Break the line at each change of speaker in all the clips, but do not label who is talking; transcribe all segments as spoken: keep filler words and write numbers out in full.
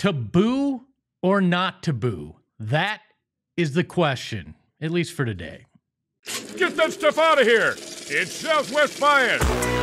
To boo or not to boo? That is the question, at least for today.
Get that stuff out of here. It's Southwest Bias.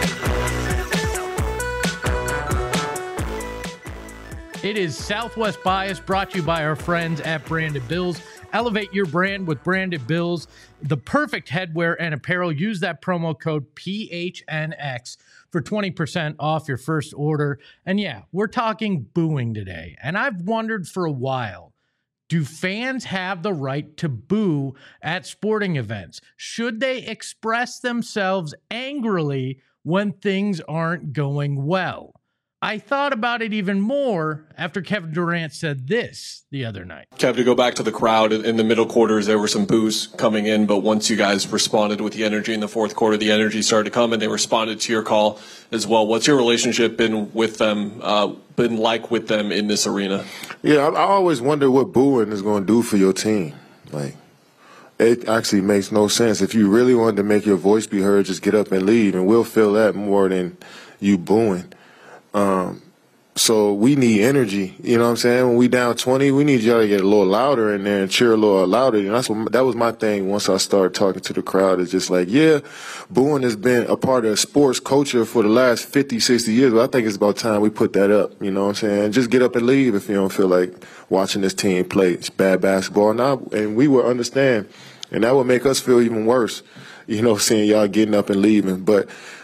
It is Southwest Bias, brought to you by our friends at Branded Bills. Elevate your brand with Branded Bills, the perfect headwear and apparel. Use that promo code P H N X for twenty percent off your first order. And yeah, we're talking booing today. And I've wondered for a while, do fans have the right to boo at sporting events? Should they express themselves angrily when things aren't going well? I thought about it even more after Kevin Durant said this the other night.
Kev, to go back to the crowd, in the middle quarters, there were some boos coming in, but once you guys responded with the energy in the fourth quarter, the energy started to come, and they responded to your call as well. What's your relationship been with them, uh, been like with them in this arena?
Yeah, I, I always wonder what booing is going to do for your team. Like, it actually makes no sense. If you really wanted to make your voice be heard, just get up and leave, and we'll feel that more than you booing. Um, so we need energy, you know what I'm saying? When we down twenty, we need y'all to get a little louder in there and cheer a little louder. And that's what, that was my thing once I started talking to the crowd. It's just like, yeah, booing has been a part of sports culture for the last fifty, sixty years, but I think it's about time we put that up, you know what I'm saying? Just get up and leave if you don't feel like watching this team play. It's bad basketball now, and we will understand. And that would make us feel even worse, you know, seeing y'all getting up and leaving. But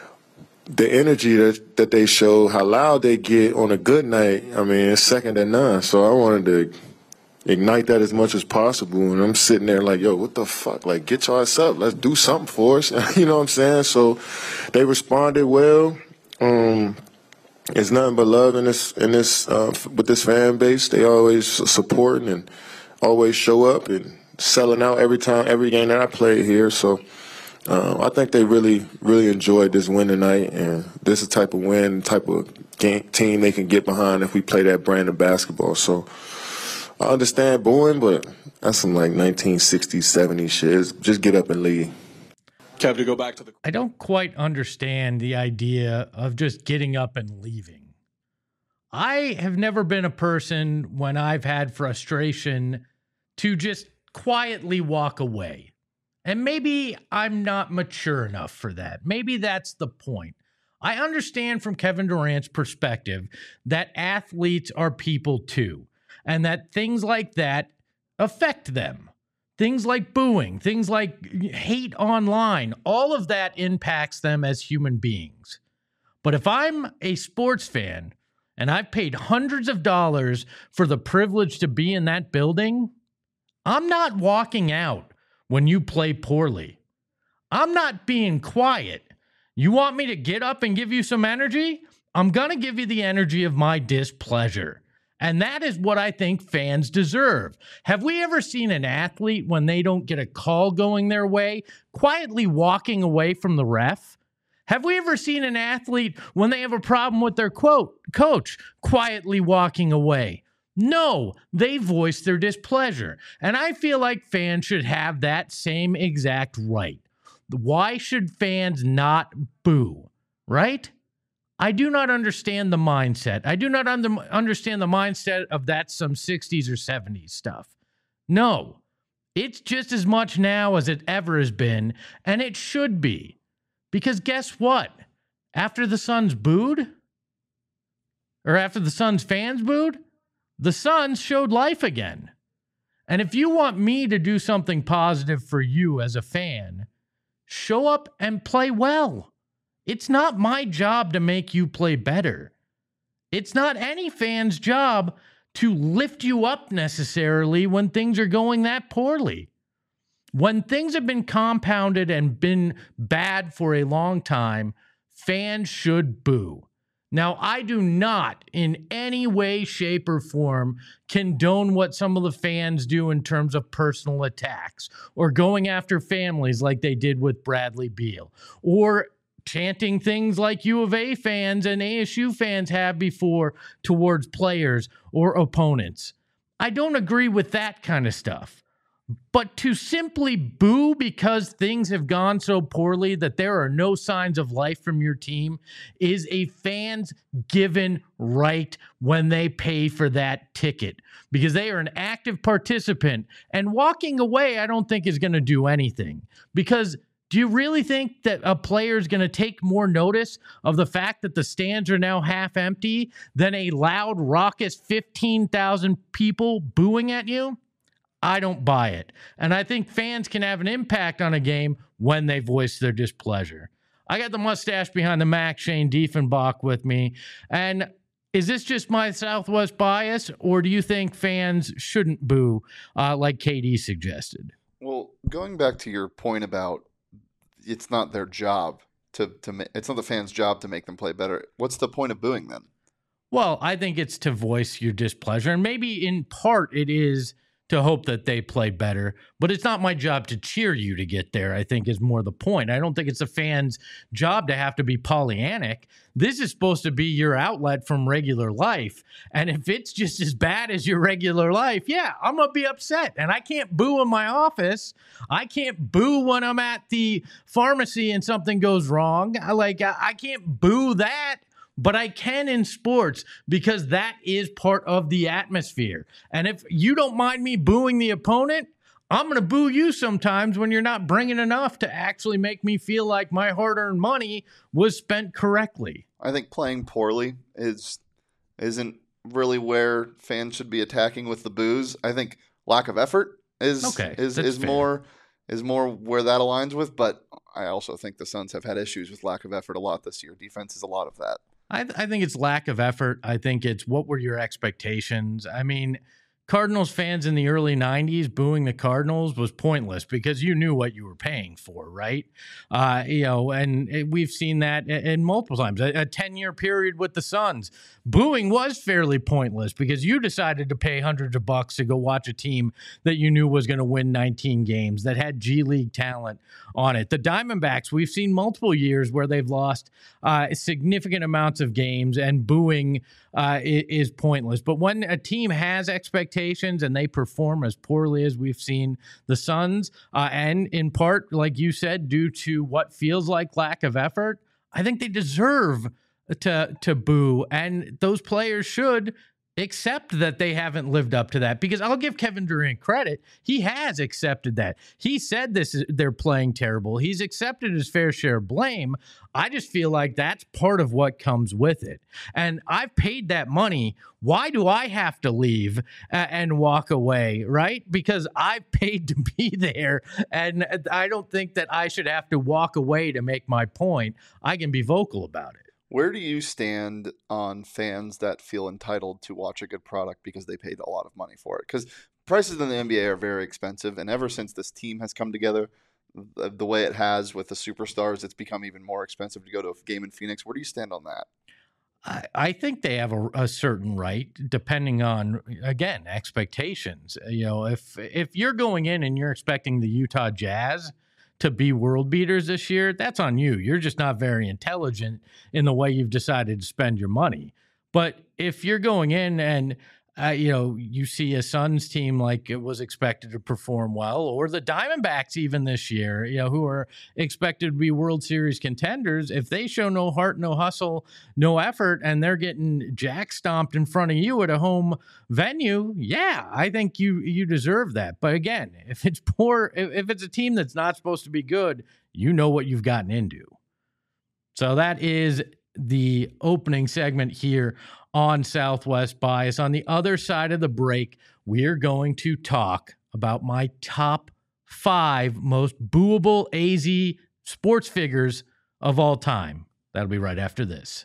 the energy that, that they show, how loud they get on a good night, I mean, it's second to none. So I wanted to ignite that as much as possible. And I'm sitting there like, yo, what the fuck? Like, get your ass up. Let's do something for us. You know what I'm saying? So they responded well. Um, it's nothing but love in this, in this, uh, with this fan base. They always supporting and always show up and selling out every time, every game that I play here. So Um, I think they really, really enjoyed this win tonight, and this is the type of win, type of game, team they can get behind if we play that brand of basketball. So I understand booing, but that's some like nineteen sixties, seventies shit. Just get up and leave.
Kev, to go back to the...
I don't quite understand the idea of just getting up and leaving. I have never been a person, when I've had frustration, to just quietly walk away. And maybe I'm not mature enough for that. Maybe that's the point. I understand from Kevin Durant's perspective that athletes are people too, and that things like that affect them. Things like booing, things like hate online, all of that impacts them as human beings. But if I'm a sports fan and I've paid hundreds of dollars for the privilege to be in that building, I'm not walking out when you play poorly. I'm not being quiet. You want me to get up and give you some energy? I'm going to give you the energy of my displeasure. And that is what I think fans deserve. Have we ever seen an athlete, when they don't get a call going their way, quietly walking away from the ref? Have we ever seen an athlete, when they have a problem with their quote, coach, quietly walking away? No, they voice their displeasure. And I feel like fans should have that same exact right. Why should fans not boo, right? I do not understand the mindset. I do not under, understand the mindset of that some sixties or seventies stuff. No, it's just as much now as it ever has been, and it should be. Because guess what? After the Suns booed, or after the Suns fans booed, the Suns showed life again. And if you want me to do something positive for you as a fan, show up and play well. It's not my job to make you play better. It's not any fan's job to lift you up necessarily when things are going that poorly. When things have been compounded and been bad for a long time, fans should boo. Now, I do not in any way, shape, or form condone what some of the fans do in terms of personal attacks or going after families like they did with Bradley Beal or chanting things like U of A fans and A S U fans have before towards players or opponents. I don't agree with that kind of stuff. But to simply boo because things have gone so poorly that there are no signs of life from your team is a fan's given right when they pay for that ticket, because they are an active participant. And walking away, I don't think is going to do anything. Because do you really think that a player is going to take more notice of the fact that the stands are now half empty than a loud, raucous fifteen thousand people booing at you? I don't buy it. And I think fans can have an impact on a game when they voice their displeasure. I got the mustache behind the Mac, Shane Diefenbach, with me. And is this just my Southwest bias, or do you think fans shouldn't boo uh, like K D suggested?
Well, going back to your point about it's not their job to, to ma- it's not the fans' job to make them play better. What's the point of booing then?
Well, I think it's to voice your displeasure. And maybe in part it is to hope that they play better. But it's not my job to cheer you to get there, I think is more the point. I don't think it's a fan's job to have to be Pollyannic. This is supposed to be your outlet from regular life. And if it's just as bad as your regular life, yeah, I'm going to be upset. And I can't boo in my office. I can't boo when I'm at the pharmacy and something goes wrong. I like, I can't boo that. But I can in sports because that is part of the atmosphere. And if you don't mind me booing the opponent, I'm going to boo you sometimes when you're not bringing enough to actually make me feel like my hard-earned money was spent correctly.
I think playing poorly is, isn't really where fans should be attacking with the boos. I think lack of effort is
okay,
is, is more is more where that aligns with. But I also think the Suns have had issues with lack of effort a lot this year. Defense is a lot of that.
I, th- I think it's lack of effort. I think it's what were your expectations? I mean, Cardinals fans in the early nineties booing the Cardinals was pointless because you knew what you were paying for, right? Uh, you know, and it, we've seen that in, in multiple times. A, a ten-year period with the Suns, booing was fairly pointless because you decided to pay hundreds of bucks to go watch a team that you knew was going to win nineteen games, that had G League talent on it. The Diamondbacks, we've seen multiple years where they've lost uh, significant amounts of games, and booing uh, is, is pointless. But when a team has expectations and they perform as poorly as we've seen the Suns, uh, and in part, like you said, due to what feels like lack of effort, I think they deserve to to boo, and those players should accept that they haven't lived up to that, because I'll give Kevin Durant credit. He has accepted that. He said this is, they're playing terrible. He's accepted his fair share of blame. I just feel like that's part of what comes with it. And I've paid that money. Why do I have to leave and walk away, right? Because I've paid to be there, and I don't think that I should have to walk away to make my point. I can be vocal about it.
Where do you stand on fans that feel entitled to watch a good product because they paid a lot of money for it? Because prices in the N B A are very expensive, and ever since this team has come together the, the way it has with the superstars, it's become even more expensive to go to a game in Phoenix. Where do you stand on that?
I, I think they have a, a certain right, depending on, again, expectations. You know, if if you're going in and you're expecting the Utah Jazz to be world beaters this year, that's on you. You're just not very intelligent in the way you've decided to spend your money. But if you're going in and, uh, you know, you see a Suns team like it was expected to perform well, or the Diamondbacks even this year, you know, who are expected to be World Series contenders, if they show no heart, no hustle, no effort, and they're getting jack stomped in front of you at a home venue, yeah, I think you you deserve that. But again, if it's poor, if, if it's a team that's not supposed to be good, you know what you've gotten into. So that is the opening segment here on Southwest Bias. On the other side of the break, we're going to talk about my top five most booable A Z sports figures of all time. That'll be right after this.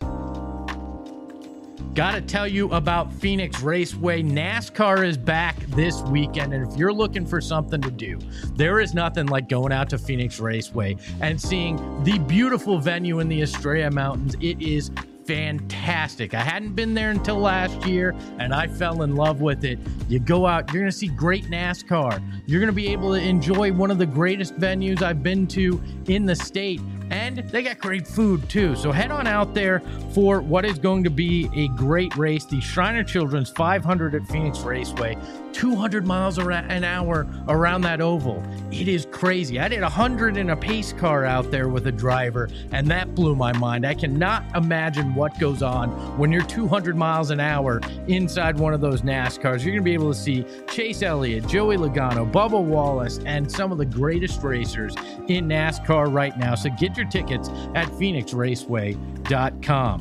Got to tell you about Phoenix Raceway. NASCAR is back this weekend, and if you're looking for something to do, there is nothing like going out to Phoenix Raceway and seeing the beautiful venue in the Estrella Mountains. It is fantastic. I hadn't been there until last year, and I fell in love with it. You go out, you're going to see great NASCAR. You're going to be able to enjoy one of the greatest venues I've been to in the state. And they got great food too. So head on out there for what is going to be a great race. The Shriner Children's five hundred at Phoenix Raceway, two hundred miles an hour around that oval. It is crazy. I did one hundred in a pace car out there with a driver, and that blew my mind. I cannot imagine what goes on when you're two hundred miles an hour inside one of those NASCARs. You're going to be able to see Chase Elliott, Joey Logano, Bubba Wallace, and some of the greatest racers in NASCAR right now. So get your tickets at phoenix raceway dot com.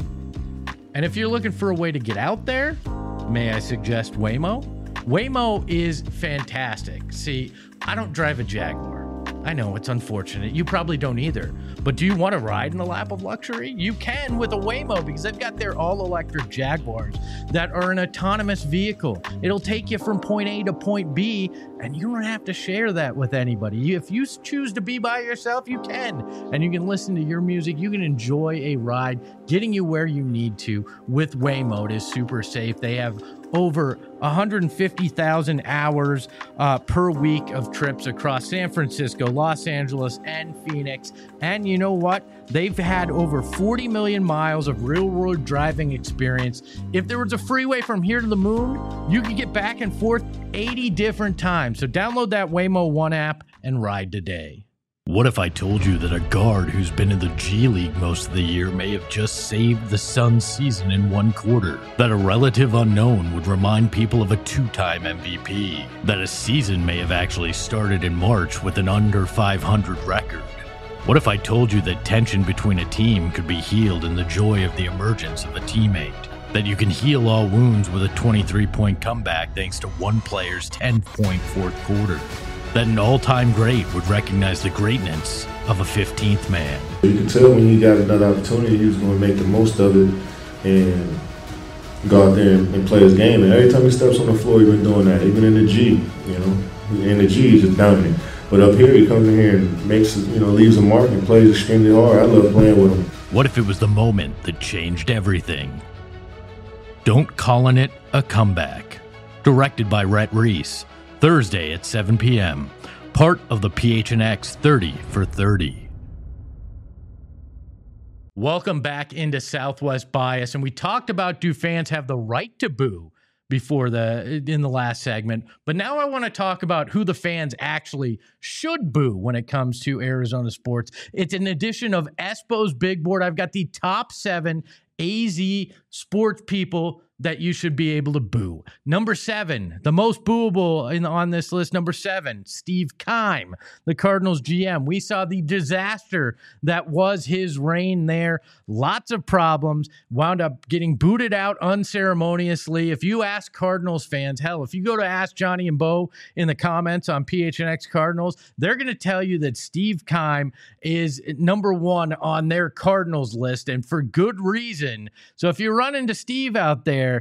And if you're looking for a way to get out there, may I suggest Waymo? Waymo is fantastic. See, I don't drive a Jaguar. I know it's unfortunate. You probably don't either. But do you want to ride in a lap of luxury? You can with a Waymo, because they've got their all-electric Jaguars that are an autonomous vehicle. It'll take you from point A to point B, and you don't have to share that with anybody. If you choose to be by yourself, you can. And you can listen to your music. You can enjoy a ride, getting you where you need to with Waymo. It is super safe. They have over one hundred fifty thousand hours uh, per week of trips across San Francisco, Los Angeles, and Phoenix. And you know what? They've had over forty million miles of real-world driving experience. If there was a freeway from here to the moon, you could get back and forth eighty different times. So download that Waymo One app and ride today. What if I told you that a guard who's been in the G League most of the year may have just saved the Suns' season in one quarter? That a relative unknown would remind people of a two-time M V P? That a season may have actually started in March with an under five hundred record? What if I told you that tension between a team could be healed in the joy of the emergence of a teammate? That you can heal all wounds with a twenty-three point comeback thanks to one player's ten point fourth quarter? That an all-time great would recognize the greatness of a fifteenth man?
You can tell when he got another opportunity, he was going to make the most of it and go out there and, and play his game. And every time he steps on the floor, he's been doing that. Even in the G, you know, in the G, he's just dominant. But up here, he comes in here and makes, you know, leaves a mark and plays extremely hard. I love playing with him.
What if it was the moment that changed everything? Don't Call It a Comeback. Directed by Rhett Reese. Thursday at seven p.m. Part of the P H N X thirty for thirty. Welcome back into Southwest Bias. And we talked about, do fans have the right to boo before the in the last segment. But now I want to talk about who the fans actually should boo when it comes to Arizona sports. It's an edition of Espo's Big Board. I've got the top seven A Z sports people that you should be able to boo. Number seven, the most booable in, on this list, number seven, Steve Keim, the Cardinals G M. We saw the disaster that was his reign there. Lots of problems. Wound up getting booted out unceremoniously. If you ask Cardinals fans, hell, if you go to Ask Johnny and Bo in the comments on P H N X Cardinals, they're going to tell you that Steve Keim is number one on their Cardinals list, and for good reason. So if you run into Steve out there,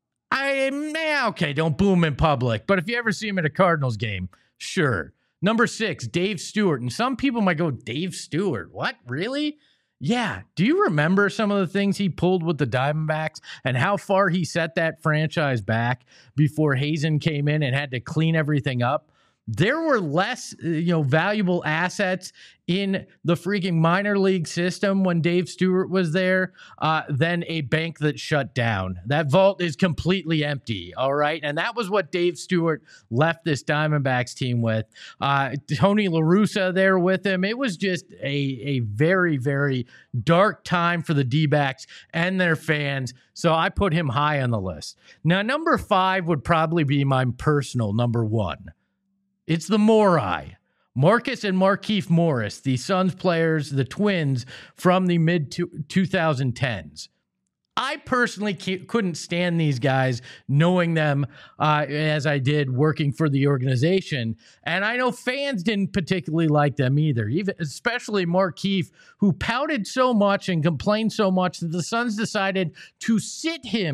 I yeah, okay, don't boo him in public. But if you ever see him at a Cardinals game, sure. Number six, Dave Stewart. And some people might go, Dave Stewart, what? Really? Yeah. Do you remember some of the things he pulled with the Diamondbacks and how far he set that franchise back before Hazen came in and had to clean everything up? There were less, you know, valuable assets in the freaking minor league system when Dave Stewart was there uh, than a bank that shut down. That vault is completely empty, all right? And that was what Dave Stewart left this Diamondbacks team with. Uh, Tony La Russa there with him. It was just a, a very, very dark time for the D-backs and their fans, so I put him high on the list. Now, number five would probably be my personal number one. It's the Morai. Marcus and Markieff Morris, the Suns players, the twins from the mid twenty tens. I personally couldn't stand these guys, knowing them uh, as I did working for the organization. And I know fans didn't particularly like them either, even especially Markieff, who pouted so much and complained so much that the Suns decided to sit him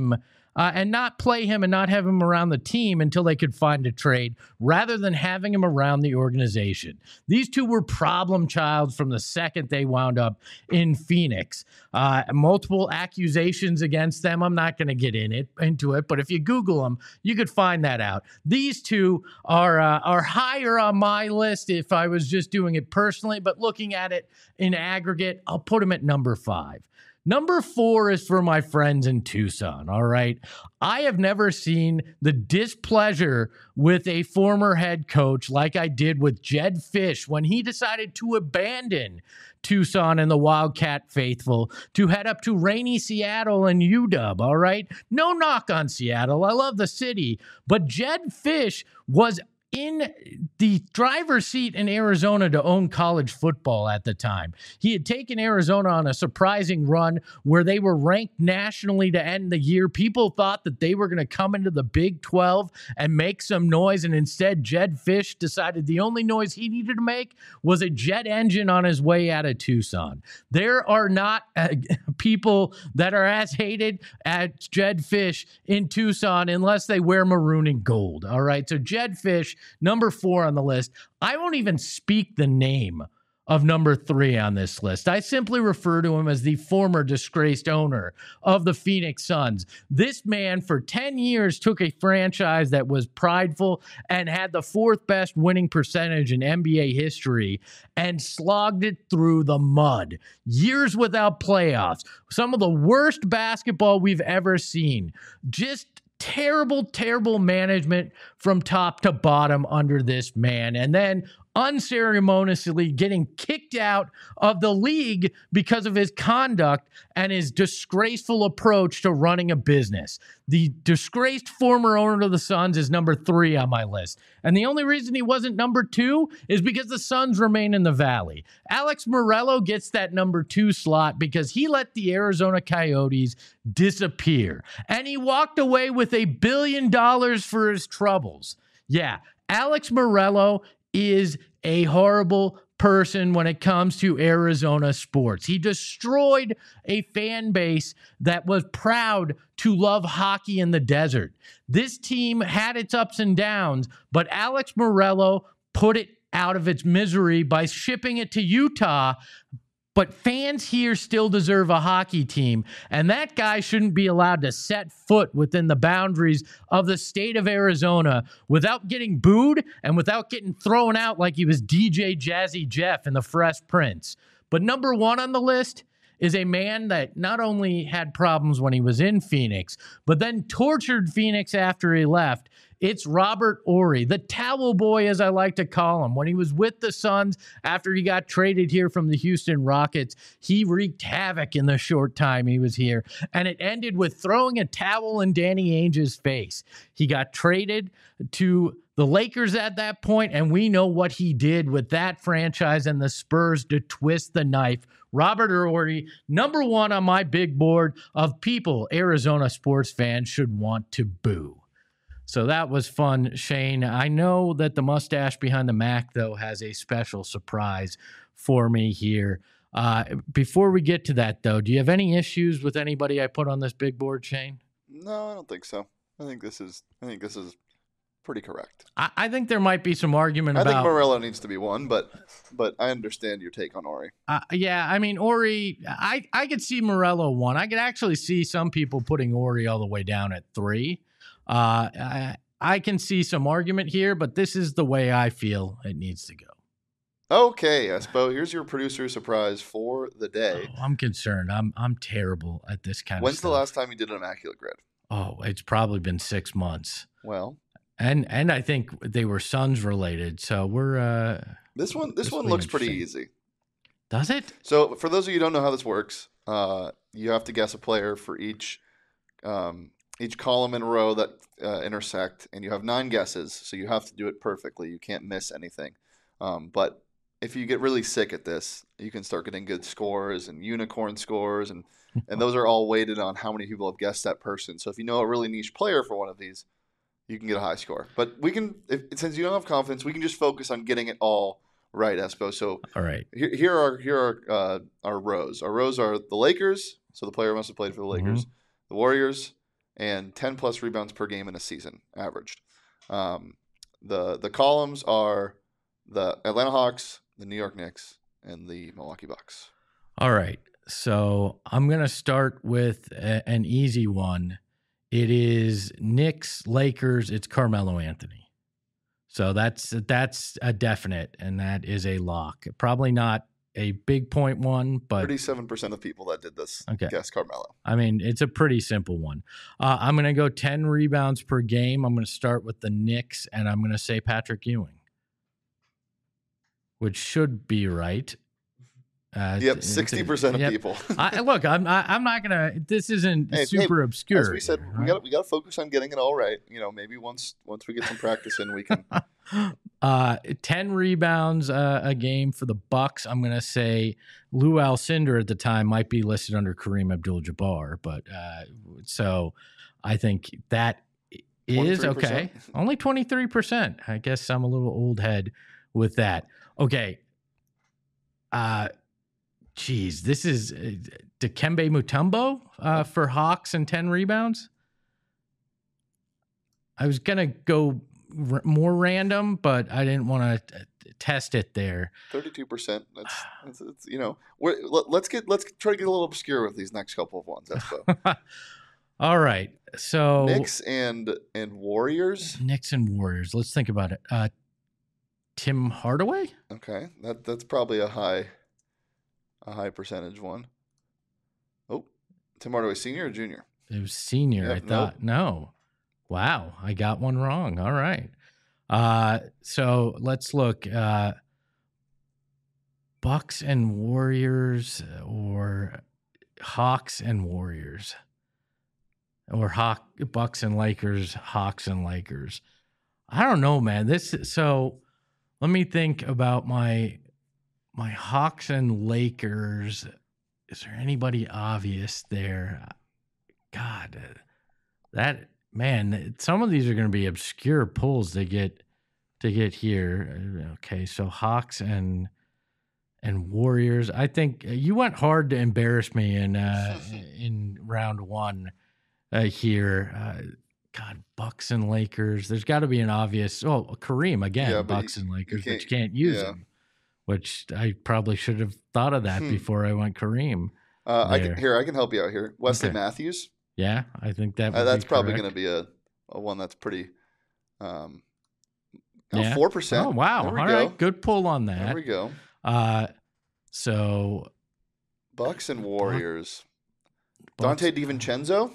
uh, and not play him and not have him around the team until they could find a trade rather than having him around the organization. These two were problem childs from the second they wound up in Phoenix. Uh, multiple accusations against them. I'm not going to get in it into it, but if you Google them, you could find that out. These two are uh, are higher on my list if I was just doing it personally, but looking at it in aggregate, I'll put them at number five. Number four is for my friends in Tucson, all right? I have never seen the displeasure with a former head coach like I did with Jedd Fisch when he decided to abandon Tucson and the Wildcat faithful to head up to rainy Seattle and U W, all right? No knock on Seattle. I love the city. But Jedd Fisch was in the driver's seat in Arizona to own college football at the time. He had taken Arizona on a surprising run where they were ranked nationally to end the year. People thought that they were going to come into the Big twelve and make some noise, and instead Jedd Fisch decided the only noise he needed to make was a jet engine on his way out of Tucson. There are not uh, people that are as hated as Jedd Fisch in Tucson unless they wear maroon and gold, all right? So Jedd Fisch, number four on the list. I won't even speak the name of number three on this list. I simply refer to him as the former disgraced owner of the Phoenix Suns. This man for ten years took a franchise that was prideful and had the fourth best winning percentage in N B A history and slogged it through the mud. Years without playoffs. Some of the worst basketball we've ever seen. Just terrible, terrible management from top to bottom under this man. And then unceremoniously getting kicked out of the league because of his conduct and his disgraceful approach to running a business. The disgraced former owner of the Suns is number three on my list. And the only reason he wasn't number two is because the Suns remain in the Valley. Alex Morello gets that number two slot because he let the Arizona Coyotes disappear. And he walked away with a billion dollars for his troubles. Yeah, Alex Morello is a horrible person when it comes to Arizona sports. He destroyed a fan base that was proud to love hockey in the desert. This team had its ups and downs, but Alex Morello put it out of its misery by shipping it to Utah. But fans here still deserve a hockey team, and that guy shouldn't be allowed to set foot within the boundaries of the state of Arizona without getting booed and without getting thrown out like he was D J Jazzy Jeff in The Fresh Prince. But number one on the list is a man that not only had problems when he was in Phoenix, but then tortured Phoenix after he left. It's Robert Horry, the towel boy, as I like to call him. When he was with the Suns after he got traded here from the Houston Rockets, he wreaked havoc in the short time he was here. And it ended with throwing a towel in Danny Ainge's face. He got traded to the Lakers at that point, and we know what he did with that franchise and the Spurs to twist the knife. Robert Horry, number one on my big board of people Arizona sports fans should want to boo. So that was fun, Shane. I know that the mustache behind the Mac, though, has a special surprise for me here. Uh, before we get to that, though, do you have any issues with anybody I put on this big board, Shane?
No, I don't think so. I think this is. I think this is pretty correct.
I, I think there might be some argument
I
about.
I think Morello needs to be one, but but I understand your take on Horry.
Uh, yeah, I mean Horry. I I could see Morello one. I could actually see some people putting Horry all the way down at three. Uh, I, I can see some argument here, but this is the way I feel it needs to go.
Okay, Espo, here's your producer surprise for the day.
Oh, I'm concerned. I'm I'm terrible at this kind
When's
of stuff.
When's the last time you did an Immaculate Grid?
Oh, it's probably been six months.
Well,
and and I think they were Suns related, so we're uh,
this one. This one looks pretty easy.
Does it?
So, for those of you who don't know how this works, uh, you have to guess a player for each. Um, Each column and row that uh, intersect, and you have nine guesses, so you have to do it perfectly. You can't miss anything. Um, but if you get really sick at this, you can start getting good scores and unicorn scores, and, and those are all weighted on how many people have guessed that person. So if you know a really niche player for one of these, you can get a high score. But we can, if, since you don't have confidence, we can just focus on getting it all right, Espo. So
all right,
here, here are here are uh, our rows. Our rows are the Lakers, so the player must have played for the Lakers, mm-hmm. the Warriors, and ten plus rebounds per game in a season averaged. Um, the the columns are the Atlanta Hawks, the New York Knicks, and the Milwaukee Bucks.
All right. So I'm going to start with a, an easy one. It is Knicks, Lakers. It's Carmelo Anthony. So that's that's a definite, and that is a lock. Probably not a big point one, but
thirty-seven percent of people that did this
okay.
guess Carmelo.
I mean, it's a pretty simple one. Uh, I'm going to go ten rebounds per game. I'm going to start with the Knicks, and I'm going to say Patrick Ewing, which should be right. Uh,
yep, sixty percent of
yep.
people.
I, look, I'm I, I'm not gonna. This isn't
hey,
super
hey,
obscure.
As we said,
here,
we
right?
got we got to focus on getting it all right. You know, maybe once once we get some practice in, we can.
uh, ten rebounds uh, a game for the Bucks. I'm gonna say Lou Alcindor at the time might be listed under Kareem Abdul-Jabbar, but uh, so I think that is okay. Only twenty-three percent. I guess I'm a little old head with that. Okay. Uh. Geez, this is uh, Dikembe Mutombo uh, for Hawks and ten rebounds. I was going to go r- more random, but I didn't want to t- test it there.
thirty-two percent. That's, that's, that's you know, we're, let, let's get let's try to get a little obscure with these next couple of ones. Espo.
All right. So
Knicks and and Warriors.
Knicks and Warriors. Let's think about it. Uh, Tim Hardaway?
Okay. That that's probably a high a high percentage one. Oh, Tim Hardaway senior or junior?
It was senior,
Yep,
I thought. Nope. No. Wow, I got one wrong. All right. Uh, so let's look. Uh, Bucks and Warriors, or Hawks and Warriors, or Hawk Bucks and Lakers, Hawks and Lakers. I don't know, man. This so let me think about my my Hawks and Lakers. Is there anybody obvious there? God, that man. Some of these are going to be obscure pulls to get to get here. Okay, so Hawks and and Warriors. I think you went hard to embarrass me in uh, in round one uh, here. Uh, God, Bucks and Lakers. There's got to be an obvious. Oh, Kareem again.
Yeah,
Bucks
you,
and Lakers,
you
but you can't use
yeah.
them. Which I probably should have thought of that
Hmm.
before I went Kareem.
Uh, I
there.
can here. I can help you out here. Wesley
Okay.
Matthews.
Yeah, I think that.
Uh,
would
that's
be
probably
correct.
going to be a, a one that's pretty. Um,
Yeah.
four percent.
Oh wow!
There we
All
go.
right, good pull on
There
that.
we go.
Uh, so
Bucks and Warriors.
Bucks-
Dante DiVincenzo.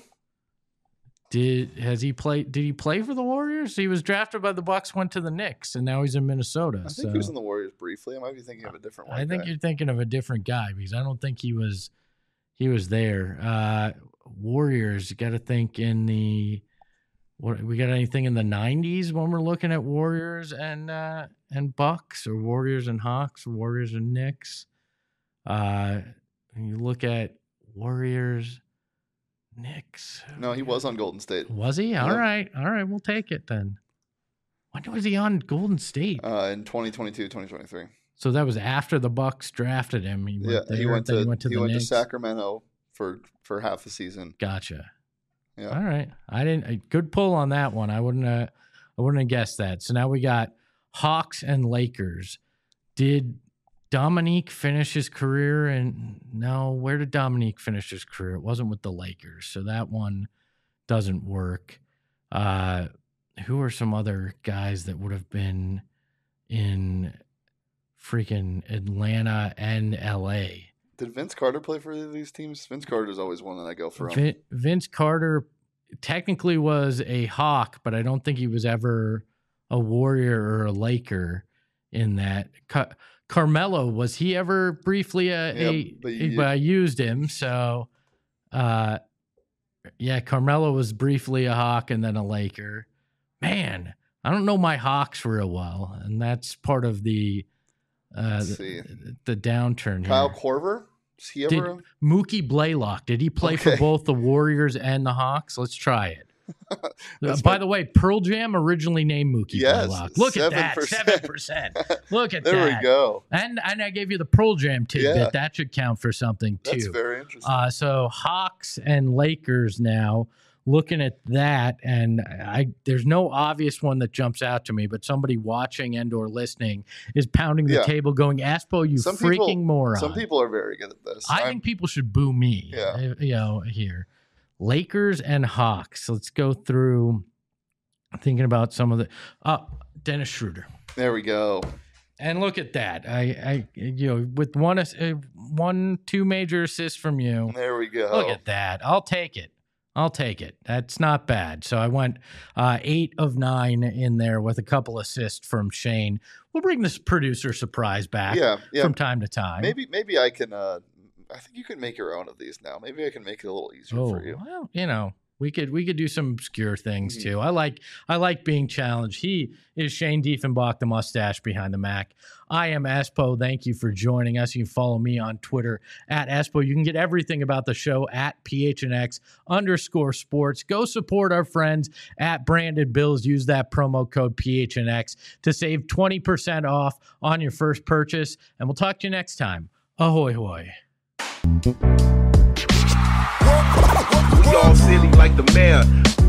Did has he played? Did he play for the Warriors? He was drafted by the Bucks, went to the Knicks, and now he's in Minnesota.
I think
so
he was in the Warriors briefly. I might be thinking of a different one.
I think you're thinking of a different guy because I don't think he was he was there. Uh, Warriors, you got to think in the what we got anything in the nineties when we're looking at Warriors and uh, and Bucks, or Warriors and Hawks, or Warriors and Knicks. Uh, when you look at Warriors, Knicks.
No, he was on Golden State.
Was he? All
Yep.
right. All right. We'll take it then. When was he on Golden State?
Uh, in twenty twenty-two, twenty twenty-three.
So that was after the Bucks drafted him. He went
Yeah,
there,
he went
then
to
he went to
he
the
went to
Knicks.
Sacramento for for half the season.
Gotcha.
Yeah.
All right. I didn't. A good pull on that one. I wouldn't. Uh, I wouldn't have guessed that. So now we got Hawks and Lakers. Did Dominique finish his career? And no, where did Dominique finish his career? It wasn't with the Lakers, so that one doesn't work. Uh, who are some other guys that would have been in freaking Atlanta and L A?
Did Vince Carter play for either of these teams? Vince Carter is always one that I go for. him.
Vin- Vince Carter technically was a Hawk, but I don't think he was ever a Warrior or a Laker in that. Ca- Carmelo, was he ever briefly a,
Yeah,
a,
but
a-
you-
but I used him. So, uh, yeah, Carmelo was briefly a Hawk and then a Laker. Man, I don't know my Hawks real well, and that's part of the uh,
Let's see.
the, the downturn
Kyle
here.
Korver? Is he
Did
ever?
Mookie Blaylock, did he play for
Okay.
both the Warriors and the Hawks? Let's try it. Uh,
That's
by
my-
the way, Pearl Jam originally named Mookie
Yes,
Blaylock. Look at that,
seven percent.
seven percent. Look at
There
that.
we go.
And and I gave you the Pearl Jam tidbit.
Yeah.
That should count for something too.
That's very interesting.
Uh, so Hawks and Lakers now. looking at that, and I there's no obvious one that jumps out to me, but somebody watching and or listening is pounding the
Yeah.
table going, Aspo, you
Some
freaking
people,
moron.
Some people are very good at this.
I
I'm-
think people should boo me,
Yeah.
uh, you know, here. Lakers and Hawks. Let's go through thinking about some of the uh, Dennis Schroeder.
there we go.
And look at that. I, I, you know, with one, ass- uh, one, two major assists from you.
There we go.
Look at that. I'll take it. I'll take it. That's not bad. So I went uh, eight of nine in there with a couple assists from Shane. We'll bring this producer surprise back
Yeah, yeah.
from time to time.
Maybe, maybe I can. Uh, I think you can make your own of these now. Maybe I can make it a little easier
Oh,
for you.
well, you know, we could we could do some obscure things
Mhm.
too. I like I like being challenged. He is Shane Diefenbach, the mustache behind the Mac. I am Aspo. Thank you for joining us. You can follow me on Twitter at Aspo. You can get everything about the show at P H N X underscore sports. Go support our friends at Branded Bills. Use that promo code P H N X to save twenty percent off on your first purchase. And we'll talk to you next time. Ahoy hoy.
We all silly like the mayor.